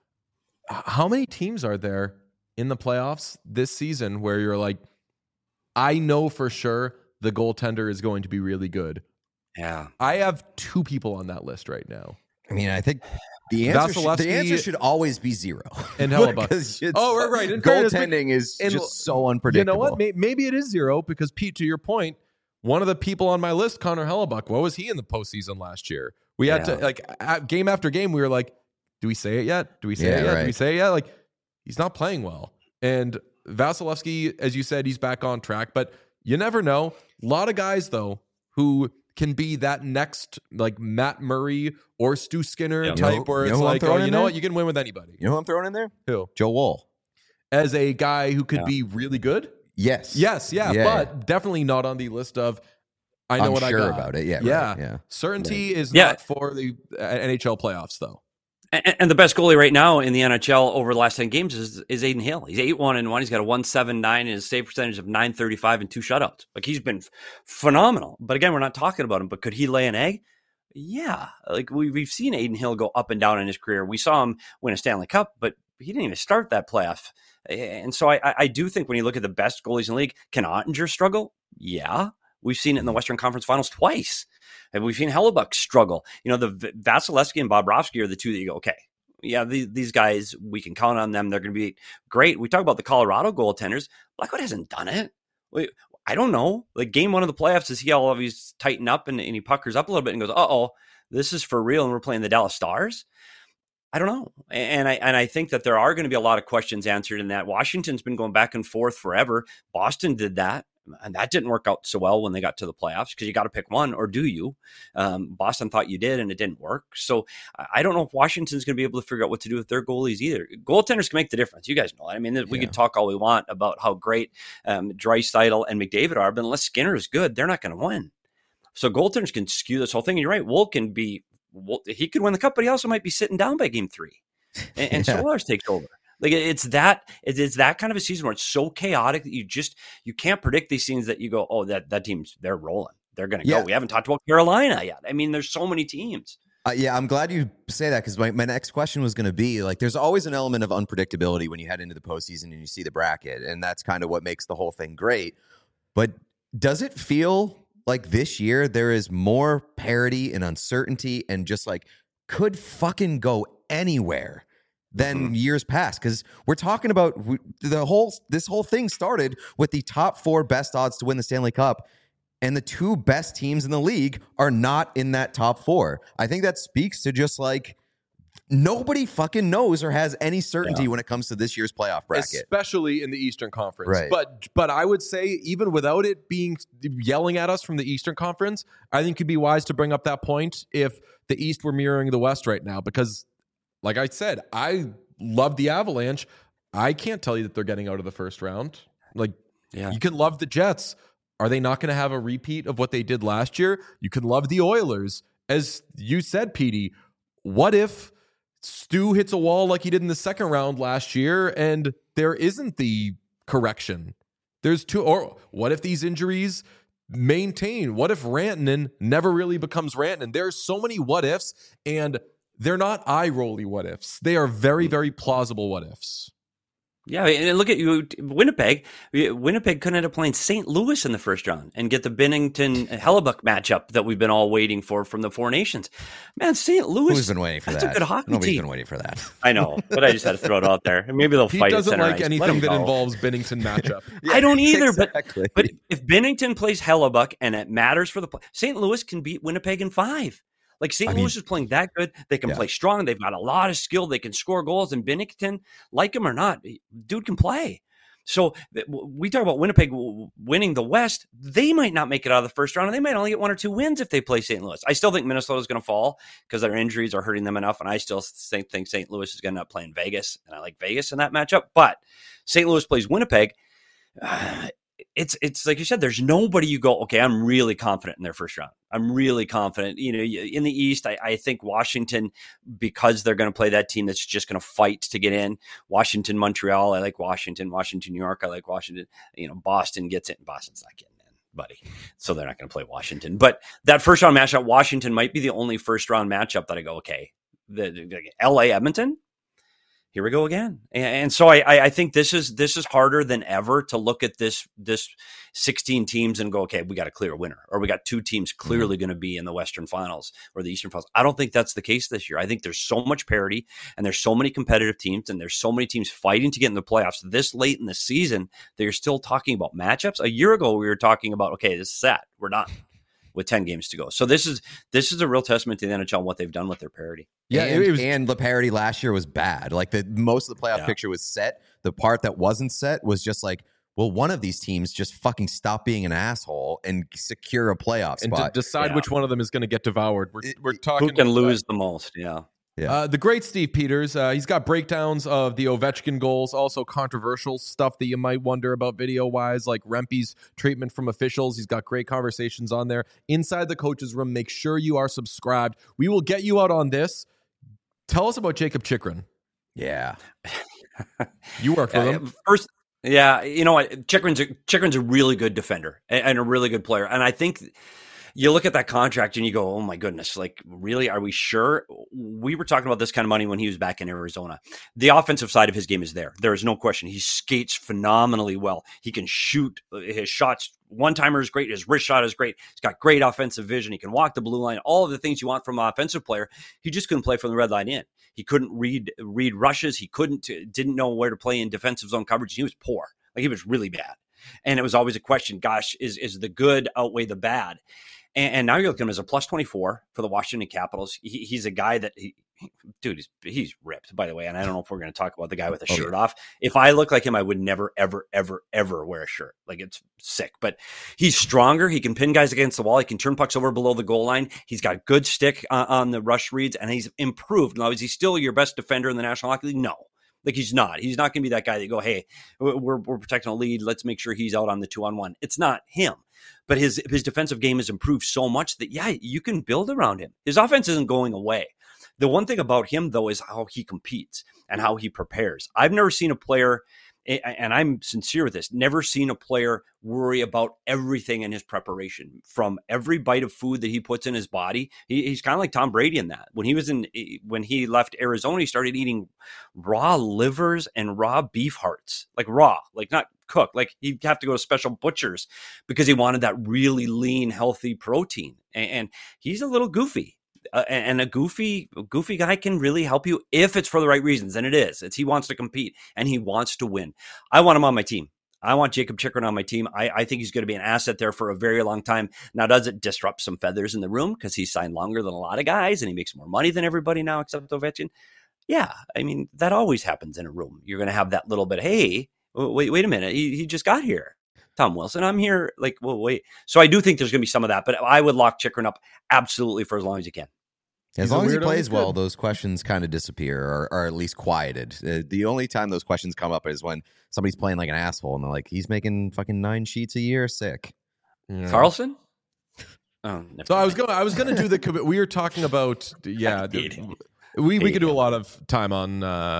How many teams are there in the playoffs this season where you're like, I know for sure the goaltender is going to be really good? Yeah. I have 2 people on that list right now. I mean, I think the answer should always be 0. And Hellebuyck. Oh, right. Goaltending is just so unpredictable. You know what? Maybe it is 0 because, Pete, to your point, one of the people on my list, Connor Hellebuyck, what was he in the postseason last year? We had to, game after game, we were like, do we say it yet? Do we say it yet? Right. Do we say it yet? Like, he's not playing well. And Vasilevsky, as you said, he's back on track, but you never know. A lot of guys, though, who can be that next like Matt Murray or Stu Skinner type where it's like, oh, you know what? You can win with anybody. You know who I'm throwing in there? Who? Joe Woll. As a guy who could be really good? Yes. But definitely not on the list of I know what I got. About it. Yeah. Right. Yeah. Certainty is not for the NHL playoffs, though. And the best goalie right now in the NHL over the last 10 games is Adin Hill. He's 8-1-1. He's got a 1.79 and his save percentage of 935 and 2 shutouts. Like, he's been phenomenal. But again, we're not talking about him. But could he lay an egg? Yeah. Like, we've seen Adin Hill go up and down in his career. We saw him win a Stanley Cup, but he didn't even start that playoff. And so I do think when you look at the best goalies in the league, can Ottinger struggle? Yeah. We've seen it in the Western Conference Finals twice. And we've seen Hellebuck struggle. The Vasilevsky and Bobrovsky are the two that you go, okay, yeah, these guys, we can count on them. They're going to be great. We talk about the Colorado goaltenders. Blackwood hasn't done it. I don't know. Like game one of the playoffs, does he always tighten up and he puckers up a little bit and goes, uh-oh, this is for real and we're playing the Dallas Stars? I don't know. And I think that there are going to be a lot of questions answered in that. Washington's been going back and forth forever. Boston did that. And that didn't work out so well when they got to the playoffs because you got to pick one, or do you? Boston thought you did, and it didn't work. So I don't know if Washington's going to be able to figure out what to do with their goalies either. Goaltenders can make the difference. You guys know that. I mean, we could talk all we want about how great Draisaitl and McDavid are, but unless Skinner is good, they're not going to win. So goaltenders can skew this whole thing. And you're right. He could win the cup, but he also might be sitting down by game 3. And Solars takes over. Like it's that kind of a season where it's so chaotic that you can't predict these scenes that you go, oh, that team's, they're rolling. They're going to go. We haven't talked about Carolina yet. I mean, there's so many teams. I'm glad you say that because my next question was going to be like, there's always an element of unpredictability when you head into the postseason and you see the bracket. And that's kind of what makes the whole thing great. But does it feel like this year there is more parity and uncertainty and just like could fucking go anywhere than years past? Because we're talking about this whole thing started with the top 4 best odds to win the Stanley Cup, and the 2 best teams in the league are not in that top 4. I think that speaks to just like nobody fucking knows or has any certainty when it comes to this year's playoff bracket, especially in the Eastern Conference. Right. But I would say even without it being yelling at us from the Eastern Conference, I think it'd be wise to bring up that point if the East were mirroring the West right now, because like I said, I love the Avalanche. I can't tell you that they're getting out of the first round. You can love the Jets. Are they not going to have a repeat of what they did last year? You can love the Oilers. As you said, Petey, what if Stu hits a wall like he did in the second round last year and there isn't the correction? There's 2. Or what if these injuries maintain? What if Rantanen never really becomes Rantanen? There's so many what ifs, and they're not eye-rolly what ifs. They are very, very plausible what ifs. Yeah, and look at you, Winnipeg. Winnipeg could end up playing St. Louis in the first round and get the Binnington-Hellebuck matchup that we've been all waiting for from the Four Nations. Man, St. Louis. Who's been waiting for that? That's a good hockey Nobody's team. been waiting for that. I know, but I just had to throw it out there. Maybe they'll fight. He doesn't like ice. anything that involves Binnington matchup. I don't either, exactly. but if Binnington plays Hellebuck and it matters for the play, St. Louis can beat Winnipeg in 5. Like St. Louis is playing that good. They can play strong. They've got a lot of skill. They can score goals. And Binnington, like him or not, dude can play. So we talk about Winnipeg winning the West. They might not make it out of the first round, and they might only get 1 or 2 wins if they play St. Louis. I still think Minnesota is going to fall because their injuries are hurting them enough, and I still think St. Louis is going to end up playing Vegas, and I like Vegas in that matchup. But St. Louis plays Winnipeg. It's like you said, there's nobody you go, okay, I'm really confident in their first round. I'm really confident. In the East, I think Washington, because they're going to play that team that's just going to fight to get in. Washington, Montreal, I like Washington. Washington, New York, I like Washington. Boston gets it, and Boston's not getting in, buddy. So they're not going to play Washington. But that first round matchup, Washington might be the only first round matchup that I go, okay, the LA Edmonton. Here we go again. And so I think this is harder than ever to look at this 16 teams and go, okay, we got a clear winner, or we got 2 teams clearly going to be in the Western Finals or the Eastern Finals. I don't think that's the case this year. I think there's so much parity and there's so many competitive teams and there's so many teams fighting to get in the playoffs this late in the season that you're still talking about matchups. A year ago, we were talking about, okay, this is set. We're done with 10 games to go. So this is a real testament to the NHL and what they've done with their parity. Yeah, and the parity last year was bad. Like most of the playoff picture was set. The part that wasn't set was just like, well, one of these teams just fucking stop being an asshole and secure a playoff spot. And decide which one of them is going to get devoured. We're talking who can lose the most. Yeah. The great Steve Peters, he's got breakdowns of the Ovechkin goals, also controversial stuff that you might wonder about video-wise, like Rempe's treatment from officials. He's got great conversations on there. Inside the Coach's Room, make sure you are subscribed. We will get you out on this. Tell us about Jacob Chychrun. Yeah. You worked with him. First, yeah, you know what? Chychrun's a really good defender and a really good player. And I think you look at that contract and you go, oh my goodness, like really, are we sure? We were talking about this kind of money when he was back in Arizona. The offensive side of his game is there. There is no question. He skates phenomenally well. He can shoot. His shots, one-timer is great. His wrist shot is great. He's got great offensive vision. He can walk the blue line. All of the things you want from an offensive player. He just couldn't play from the red line in. He couldn't read rushes. He didn't know where to play in defensive zone coverage. He was poor. Like, he was really bad. And it was always a question, gosh, is the good outweigh the bad? And now you're looking at him as a plus 24 for the Washington Capitals. He's a guy that, he's ripped, by the way. And I don't know if we're going to talk about the guy with a shirt off. If I look like him, I would never, ever, ever, ever wear a shirt. Like, it's sick. But he's stronger. He can pin guys against the wall. He can turn pucks over below the goal line. He's got good stick on the rush reads, and he's improved. Now, is he still your best defender in the National Hockey League? No. Like, he's not. He's not going to be that guy that go, hey, we're protecting a lead. Let's make sure he's out on the 2-on-1. It's not him. But his defensive game has improved so much that, yeah, you can build around him. His offense isn't going away. The one thing about him, though, is how he competes and how he prepares. I've never seen a player, and I'm sincere with this, never seen a player worry about everything in his preparation. From every bite of food that he puts in his body, he's kind of like Tom Brady in that. When he left Arizona, he started eating raw livers and raw beef hearts, like raw, like not cooked. Like, he'd have to go to special butchers because he wanted that really lean, healthy protein. And he's a little goofy. And a goofy guy can really help you if it's for the right reasons. And it is. He wants to compete and he wants to win. I want him on my team. I want Jacob Chychrun on my team. I think he's going to be an asset there for a very long time. Now, does it disrupt some feathers in the room because he's signed longer than a lot of guys and he makes more money than everybody now except Ovechkin? Yeah. I mean, that always happens in a room. You're going to have that little bit, hey, wait a minute. He just got here. Tom Wilson, I'm here. Like, well, wait. So I do think there's going to be some of that, but I would lock Chychrun up absolutely for as long as you can. As long as he plays well, those questions kind of disappear or at least quieted. The only time those questions come up is when somebody's playing like an asshole and they're like, he's making fucking 9 sheets a year. Sick. Yeah. Carlson? Oh, so I was going to do the, we were talking about, yeah, we could do a lot of time on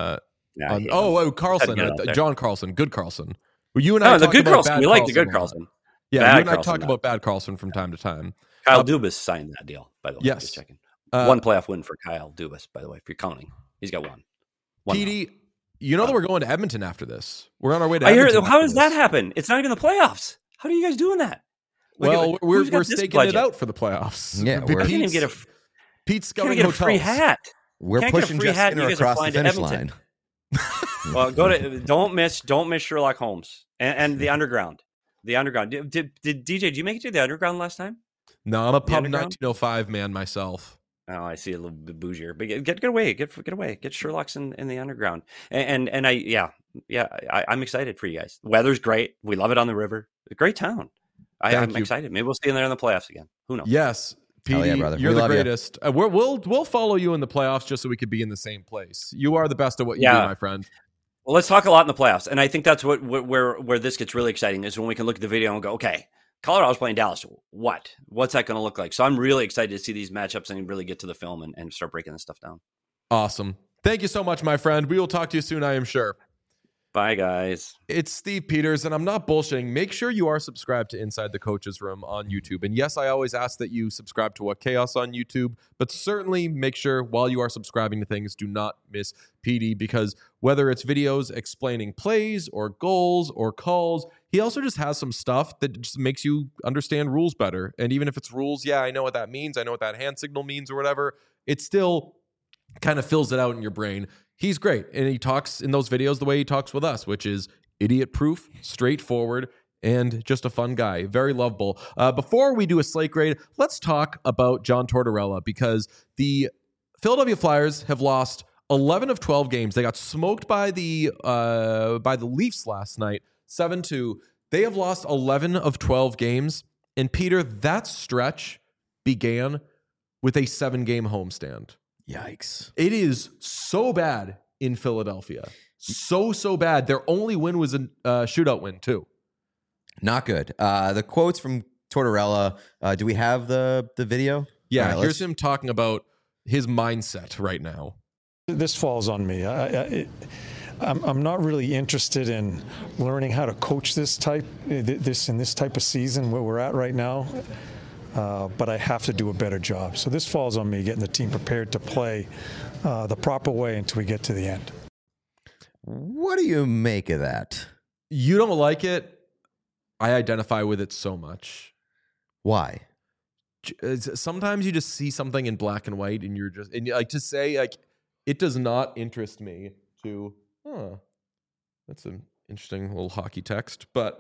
Carlson, John Carlson, good Carlson. You and I the good Carlson. We like the good Carlson. Yeah, you and I talk about bad Carlson from time to time. Kyle Dubas signed that deal, by the way. Yes. Just checking. One playoff win for Kyle Dubas, by the way, if you're counting. He's got one. PD, you know that we're going to Edmonton after this. We're on our way to Edmonton. Edmonton. How does that happen? It's not even the playoffs. How are you guys doing that? Well, we're staking it out for the playoffs. Yeah, Pete's going to get a free hat. We're pushing Justin across the finish line. Well, don't miss Sherlock Holmes and the Underground. The Underground. Did DJ? Did you make it to the Underground last time? No, I'm a pub 1905 man myself. Oh, I see, a little bit bougier, but get away, get Sherlock's in the Underground, and I'm excited for you guys. The weather's great. We love it on the river. A great town. I'm excited. Maybe we'll see you there in the playoffs again. Who knows? Yes, PD, yeah, brother. You're the greatest. We'll follow you in the playoffs just so we could be in the same place. You are the best at what you do, my friend. Well, let's talk a lot in the playoffs, and I think that's where this gets really exciting is when we can look at the video and go, okay, Colorado's playing Dallas. What's that going to look like? So I'm really excited to see these matchups and really get to the film and start breaking this stuff down. Awesome. Thank you so much, my friend. We will talk to you soon, I am sure. Bye, guys. It's Steve Peters, and I'm not bullshitting. Make sure you are subscribed to Inside the Coaches Room on YouTube. And yes, I always ask that you subscribe to What Chaos on YouTube, but certainly make sure while you are subscribing to things, do not miss PD, because whether it's videos explaining plays or goals or calls, he also just has some stuff that just makes you understand rules better. And even if it's rules, yeah, I know what that means. I know what that hand signal means or whatever. It still kind of fills it out in your brain. He's great. And he talks in those videos the way he talks with us, which is idiot-proof, straightforward, and just a fun guy. Very lovable. Before we do a slate grade, let's talk about John Tortorella, because the Philadelphia Flyers have lost 11 of 12 games. They got smoked by the Leafs last night, 7-2. They have lost 11 of 12 games. And Peter, that stretch began with a 7-game homestand. Yikes. It is so bad in Philadelphia. So bad. Their only win was a shootout win, too. Not good. The quotes from Tortorella. Do we have the video? Yeah, right, here's him talking about his mindset right now. This falls on me. I'm not really interested in learning how to coach this type of season where we're at right now. but I have to do a better job. So this falls on me, getting the team prepared to play the proper way until we get to the end. What do you make of that? You don't like it. I identify with it so much. Why? Sometimes you just see something in black and white, and you're just like to say like it does not interest me. That's an interesting little hockey text, but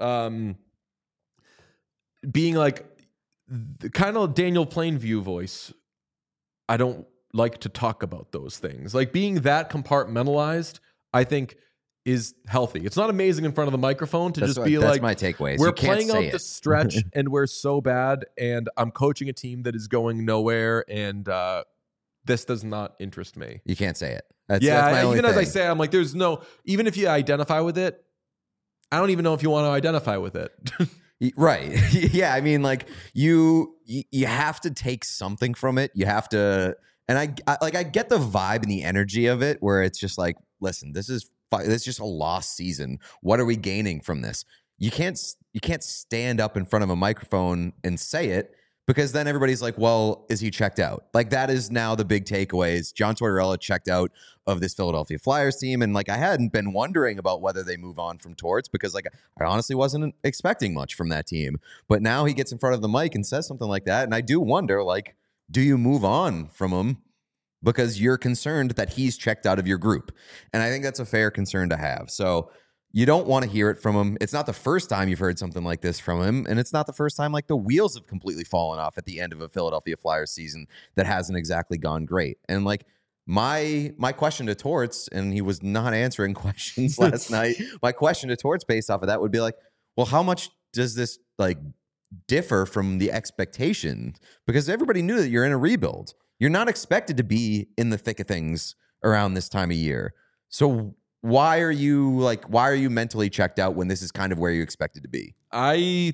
being like the kind of Daniel Plainview voice, I don't like to talk about those things. Like being that compartmentalized, I think is healthy. It's not amazing in front of the microphone to That's just be that's like, my takeaway. we're You can't playing say out the it. stretch and we're so bad, and I'm coaching a team that is going nowhere, and this does not interest me. You can't say it. That's my only even as I thing. say, I'm like, there's no, even if you identify with it, I don't even know if you want to identify with it. Right. Yeah. I mean, like you have to take something from it. You have to, and I get the vibe and the energy of it where it's just like, listen, this is just a lost season. What are we gaining from this? You can't stand up in front of a microphone and say it, because then everybody's like, well, is he checked out? Like that is now the big takeaway is John Tortorella checked out of this Philadelphia Flyers team. And like, I hadn't been wondering about whether they move on from Torts, because like I honestly wasn't expecting much from that team. But now he gets in front of the mic and says something like that. And I do wonder, like, do you move on from him because you're concerned that he's checked out of your group? And I think that's a fair concern to have. So you don't want to hear it from him. It's not the first time you've heard something like this from him. And it's not the first time like the wheels have completely fallen off at the end of a Philadelphia Flyers season that hasn't exactly gone great. And like my question to Torts, and he was not answering questions last night. My question to Torts based off of that would be like, well, how much does this like differ from the expectation? Because everybody knew that you're in a rebuild. You're not expected to be in the thick of things around this time of year. So why are you mentally checked out when this is kind of where you expected to be? I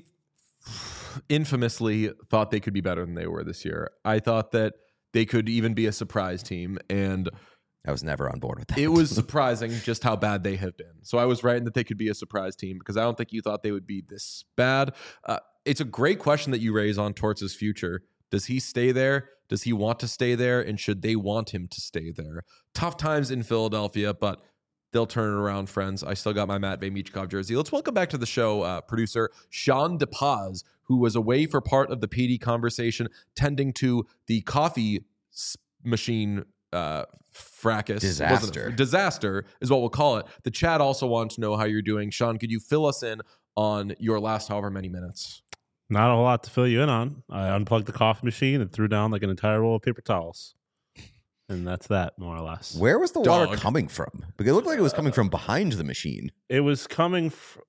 infamously thought they could be better than they were this year. I thought that they could even be a surprise team, and I was never on board with that. it was surprising just how bad they have been. So I was right in that they could be a surprise team, because I don't think you thought they would be this bad. It's a great question that you raise on Torts' future. Does he stay there? Does he want to stay there? And should they want him to stay there? Tough times in Philadelphia, but they'll turn it around, friends. I still got my Matvey Michkov jersey. Let's welcome back to the show producer Sean DePaz, who was away for part of the PD conversation, tending to the coffee machine fracas. Disaster is what we'll call it. The chat also wants to know how you're doing. Sean, could you fill us in on your last however many minutes? Not a whole lot to fill you in on. I unplugged the coffee machine and threw down like an entire roll of paper towels. And that's that, more or less. Where was the water coming from? Because it looked like it was coming from behind the machine. It was coming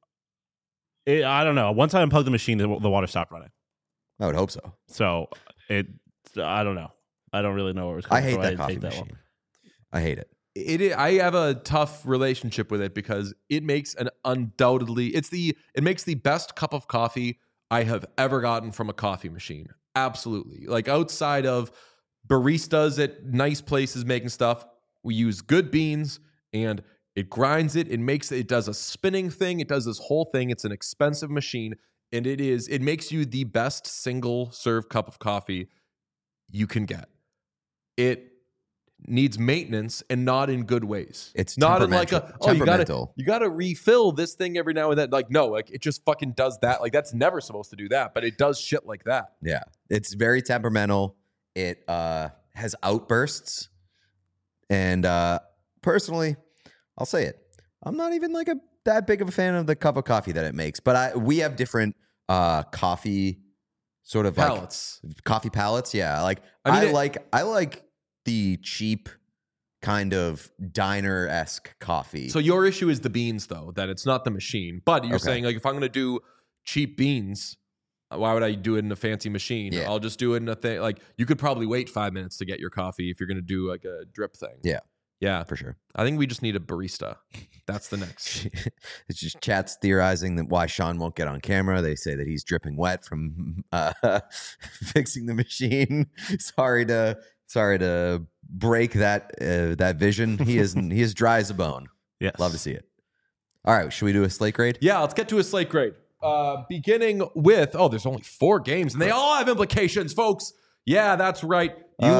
I don't know. Once I unplugged the machine, the water stopped running. I would hope so. So I don't know. I don't really know where it was coming I hate from. that coffee machine. I hate it. I have a tough relationship with it because it makes it makes the best cup of coffee I have ever gotten from a coffee machine. Absolutely. Like outside of baristas at nice places making stuff, we use good beans and it grinds it. It does a spinning thing. It does this whole thing. It's an expensive machine, and it makes you the best single serve cup of coffee you can get. It needs maintenance, and not in good ways. It's not in like temperamental. you gotta refill this thing every now and then. Like, no, like it just fucking does that. Like that's never supposed to do that, but it does shit like that. Yeah. It's very temperamental. It has outbursts. And personally, I'll say it. I'm not even like that big of a fan of the cup of coffee that it makes. But we have different coffee sort of palettes. Like coffee palettes. Yeah. Like I like the cheap kind of diner-esque coffee. So your issue is the beans, though, that it's not the machine. But you're saying, like, if I'm going to do cheap beans, why would I do it in a fancy machine? Yeah. I'll just do it in a thing. Like, you could probably wait 5 minutes to get your coffee if you're going to do, like, a drip thing. Yeah. Yeah. For sure. I think we just need a barista. That's the next. It's just chat's theorizing that why Sean won't get on camera. They say that he's dripping wet from fixing the machine. Sorry to break that vision. He is dry as a bone. Yes. Love to see it. All right, should we do a slate grade? Yeah, let's get to a slate grade. beginning with, there's only 4 games, and they all have implications, folks. Yeah, that's right.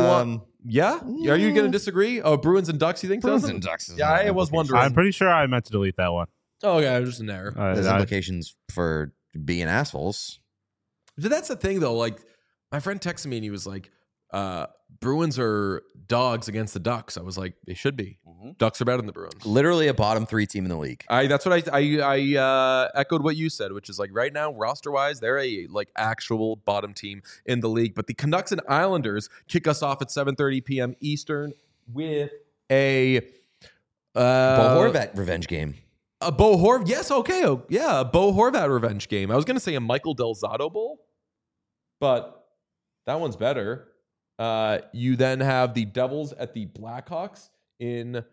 Yeah? Are you going to disagree? Oh, Bruins and Ducks, you think? Bruins doesn't? and Ducks. Yeah, I was wondering. I'm pretty sure I meant to delete that one. Oh, yeah, it was just an error. There's implications for being assholes. But that's the thing, though. Like, my friend texted me, and he was like, Bruins are dogs against the Ducks. I was like, they should be. Ducks are better than the Bruins. Literally a bottom 3 team in the league. That's what I echoed what you said, which is like right now, roster-wise, they're a actual bottom team in the league. But the Canucks and Islanders kick us off at 7:30 p.m. Eastern with a Bo Horvat revenge game. A Bo Horvat, yes, okay, a Bo Horvat revenge game. I was gonna say a Michael Del Zotto Bowl, but that one's better. You then have the Devils at the Blackhawks in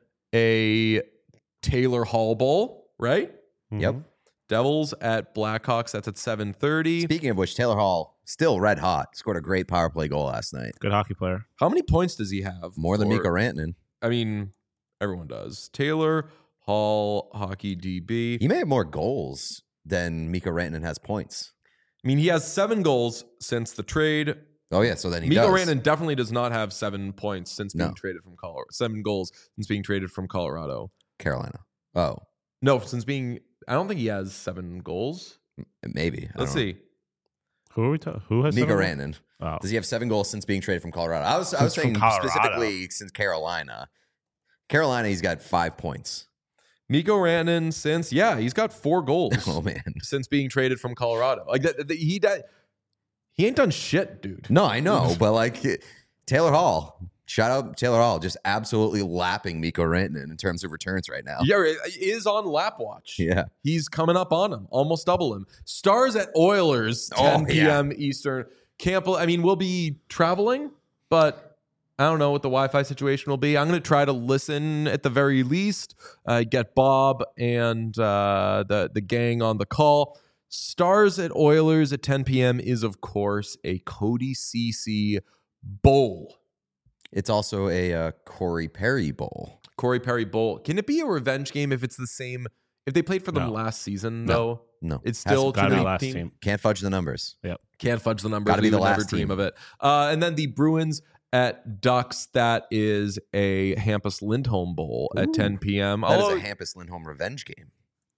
a Taylor Hall Bowl, right? Yep. Devils at Blackhawks. That's at 7:30. Speaking of which, Taylor Hall still red hot. Scored a great power play goal last night. Good hockey player. How many points does he have? More than Mikko Rantanen. I mean, everyone does. Taylor Hall, hockey DB. He may have more goals than Mikko Rantanen has points. I mean, he has 7 goals since the trade. Oh, yeah, so then he Mikko does. Rantanen definitely does not have 7 points since being No. traded from Colorado. 7 goals since being traded from Colorado. Carolina. Oh, No, since being... I don't think he has 7 goals. maybe. Let's see. Who are we Who has Mikko 7? Rantanen. Oh. Does he have 7 goals since being traded from Colorado? I was Since saying from Colorado. specifically since Carolina. Carolina, he's got 5 points. Mikko Rantanen since... Yeah, he's got 4 goals. Oh, man. Since being traded from Colorado. Like he ain't done shit, dude. No, I know, but Taylor Hall, shout out Taylor Hall, just absolutely lapping Mikko Rantanen in terms of returns right now. Yeah, he is on lap watch. Yeah. He's coming up on him, almost double him. Stars at Oilers, 10 p.m. Eastern. We'll be traveling, but I don't know what the Wi-Fi situation will be. I'm going to try to listen at the very least, get Bob and the gang on the call. Stars at Oilers at 10 p.m. is, of course, a Cody Ceci Bowl. It's also a Corey Perry Bowl. Corey Perry Bowl. Can it be a revenge game if it's the same? If they played for them No. last season, though? No. It's still Gotta be 2 last team. team. Can't fudge the numbers. Yep. Can't fudge the numbers. Gotta be We the would never last dream team. of it. And then the Bruins at Ducks. That is a Hampus Lindholm Bowl at 10 p.m. That is Although, a Hampus Lindholm revenge game.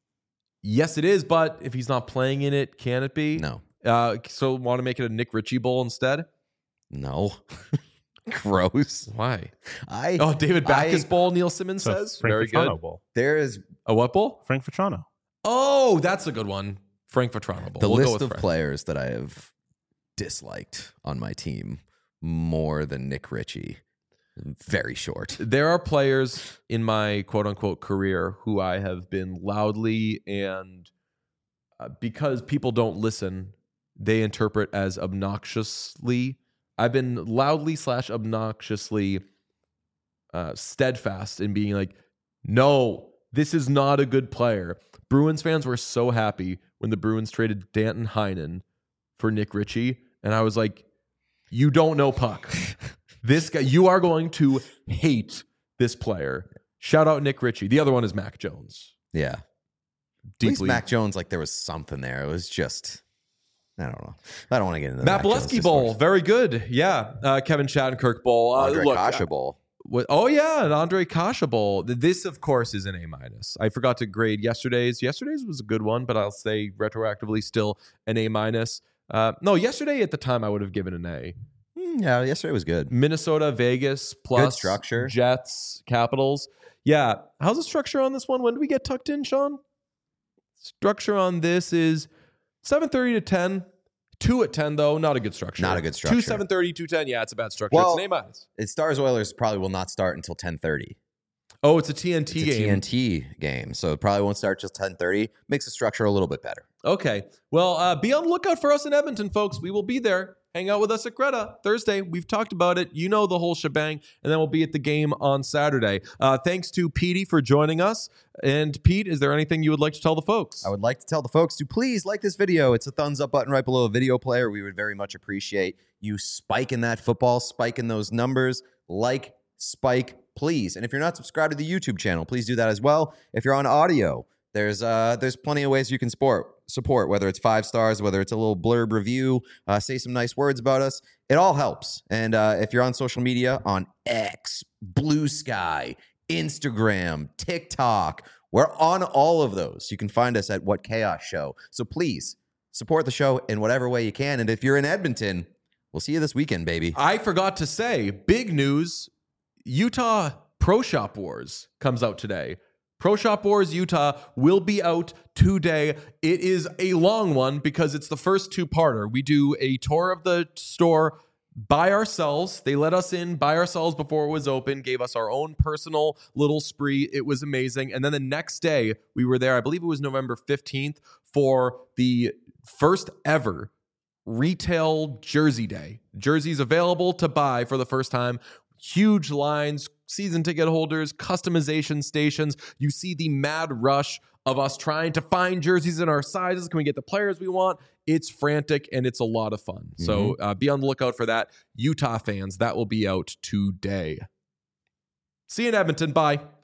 yes, it is. But if he's not playing in it, can it be? No. So want to make it a Nick Ritchie Bowl instead? No. Gross. Why? I David Backus Bowl, Neil Simmons So says. Frank Very Vetrano good. Bowl. there is A what bowl? Frank Vetrano. Oh, that's a good one. Frank Vetrano Bowl. the We'll go list with of Frank. players that I have disliked on my team more than Nick Ritchie. Very short. There are players in my quote unquote career who I have been loudly and because people don't listen, they interpret as obnoxiously. I've been loudly / obnoxiously steadfast in being like, no, this is not a good player. Bruins fans were so happy when the Bruins traded Danton Heinen for Nick Ritchie. And I was like, you don't know puck. This guy, you are going to hate this player. Shout out Nick Ritchie. The other one is Mac Jones. Yeah. At least Mac Jones, there was something there. It was just, I don't know. I don't want to get into the Matt Jones Bolesky Bowl. discourse. Very good. Yeah. Kevin Shattenkirk Bowl. Andre Look, Kasha Bowl. Oh, yeah. An Andre Kasha Bowl. This, of course, is an A-. I forgot to grade yesterday's. Yesterday's was a good one, but I'll say retroactively still an A-. No, yesterday at the time I would have given an A. Yeah, yesterday was good. Minnesota, Vegas, plus structure. Jets, Capitals. Yeah. How's the structure on this one? When do we get tucked in, Sean? Structure on this is 7:30 to 10. 2 at 10, though. Not a good structure. Not a good structure. 2, 7:30, 2, 10. Yeah, it's a bad structure. Well, it's an A-. It Stars Oilers probably will not start until 10:30. Oh, it's a TNT It's a game. TNT game, so it probably won't start till 10:30. Makes the structure a little bit better. Okay. Well, be on the lookout for us in Edmonton, folks. We will be there. Hang out with us at Greta Thursday. We've talked about it. You know the whole shebang. And then we'll be at the game on Saturday. Thanks to Petey for joining us. And Pete, is there anything you would like to tell the folks? I would like to tell the folks to please like this video. It's a thumbs up button right below a video player. We would very much appreciate you spiking that football, spiking those numbers. Like, spike, please. And if you're not subscribed to the YouTube channel, please do that as well. If you're on audio, there's plenty of ways you can support, whether it's 5 stars, whether it's a little blurb review, say some nice words about us. It all helps. And if you're on social media, on X, Blue Sky, Instagram, TikTok, we're on all of those. You can find us at What Chaos Show. So please support the show in whatever way you can. And if you're in Edmonton, we'll see you this weekend, baby. I forgot to say, big news, Utah Pro Shop Wars comes out today. Pro Shop Wars Utah will be out today. It is a long one because it's the first 2-parter. We do a tour of the store by ourselves. They let us in by ourselves before it was open, gave us our own personal little spree. It was amazing. And then the next day, we were there, I believe it was November 15th, for the first ever retail jersey day. Jerseys available to buy for the first time. Huge lines, season ticket holders, customization stations. You see the mad rush of us trying to find jerseys in our sizes. Can we get the players we want? It's frantic and it's a lot of fun. So be on the lookout for that. Utah fans, that will be out today. See you in Edmonton. Bye.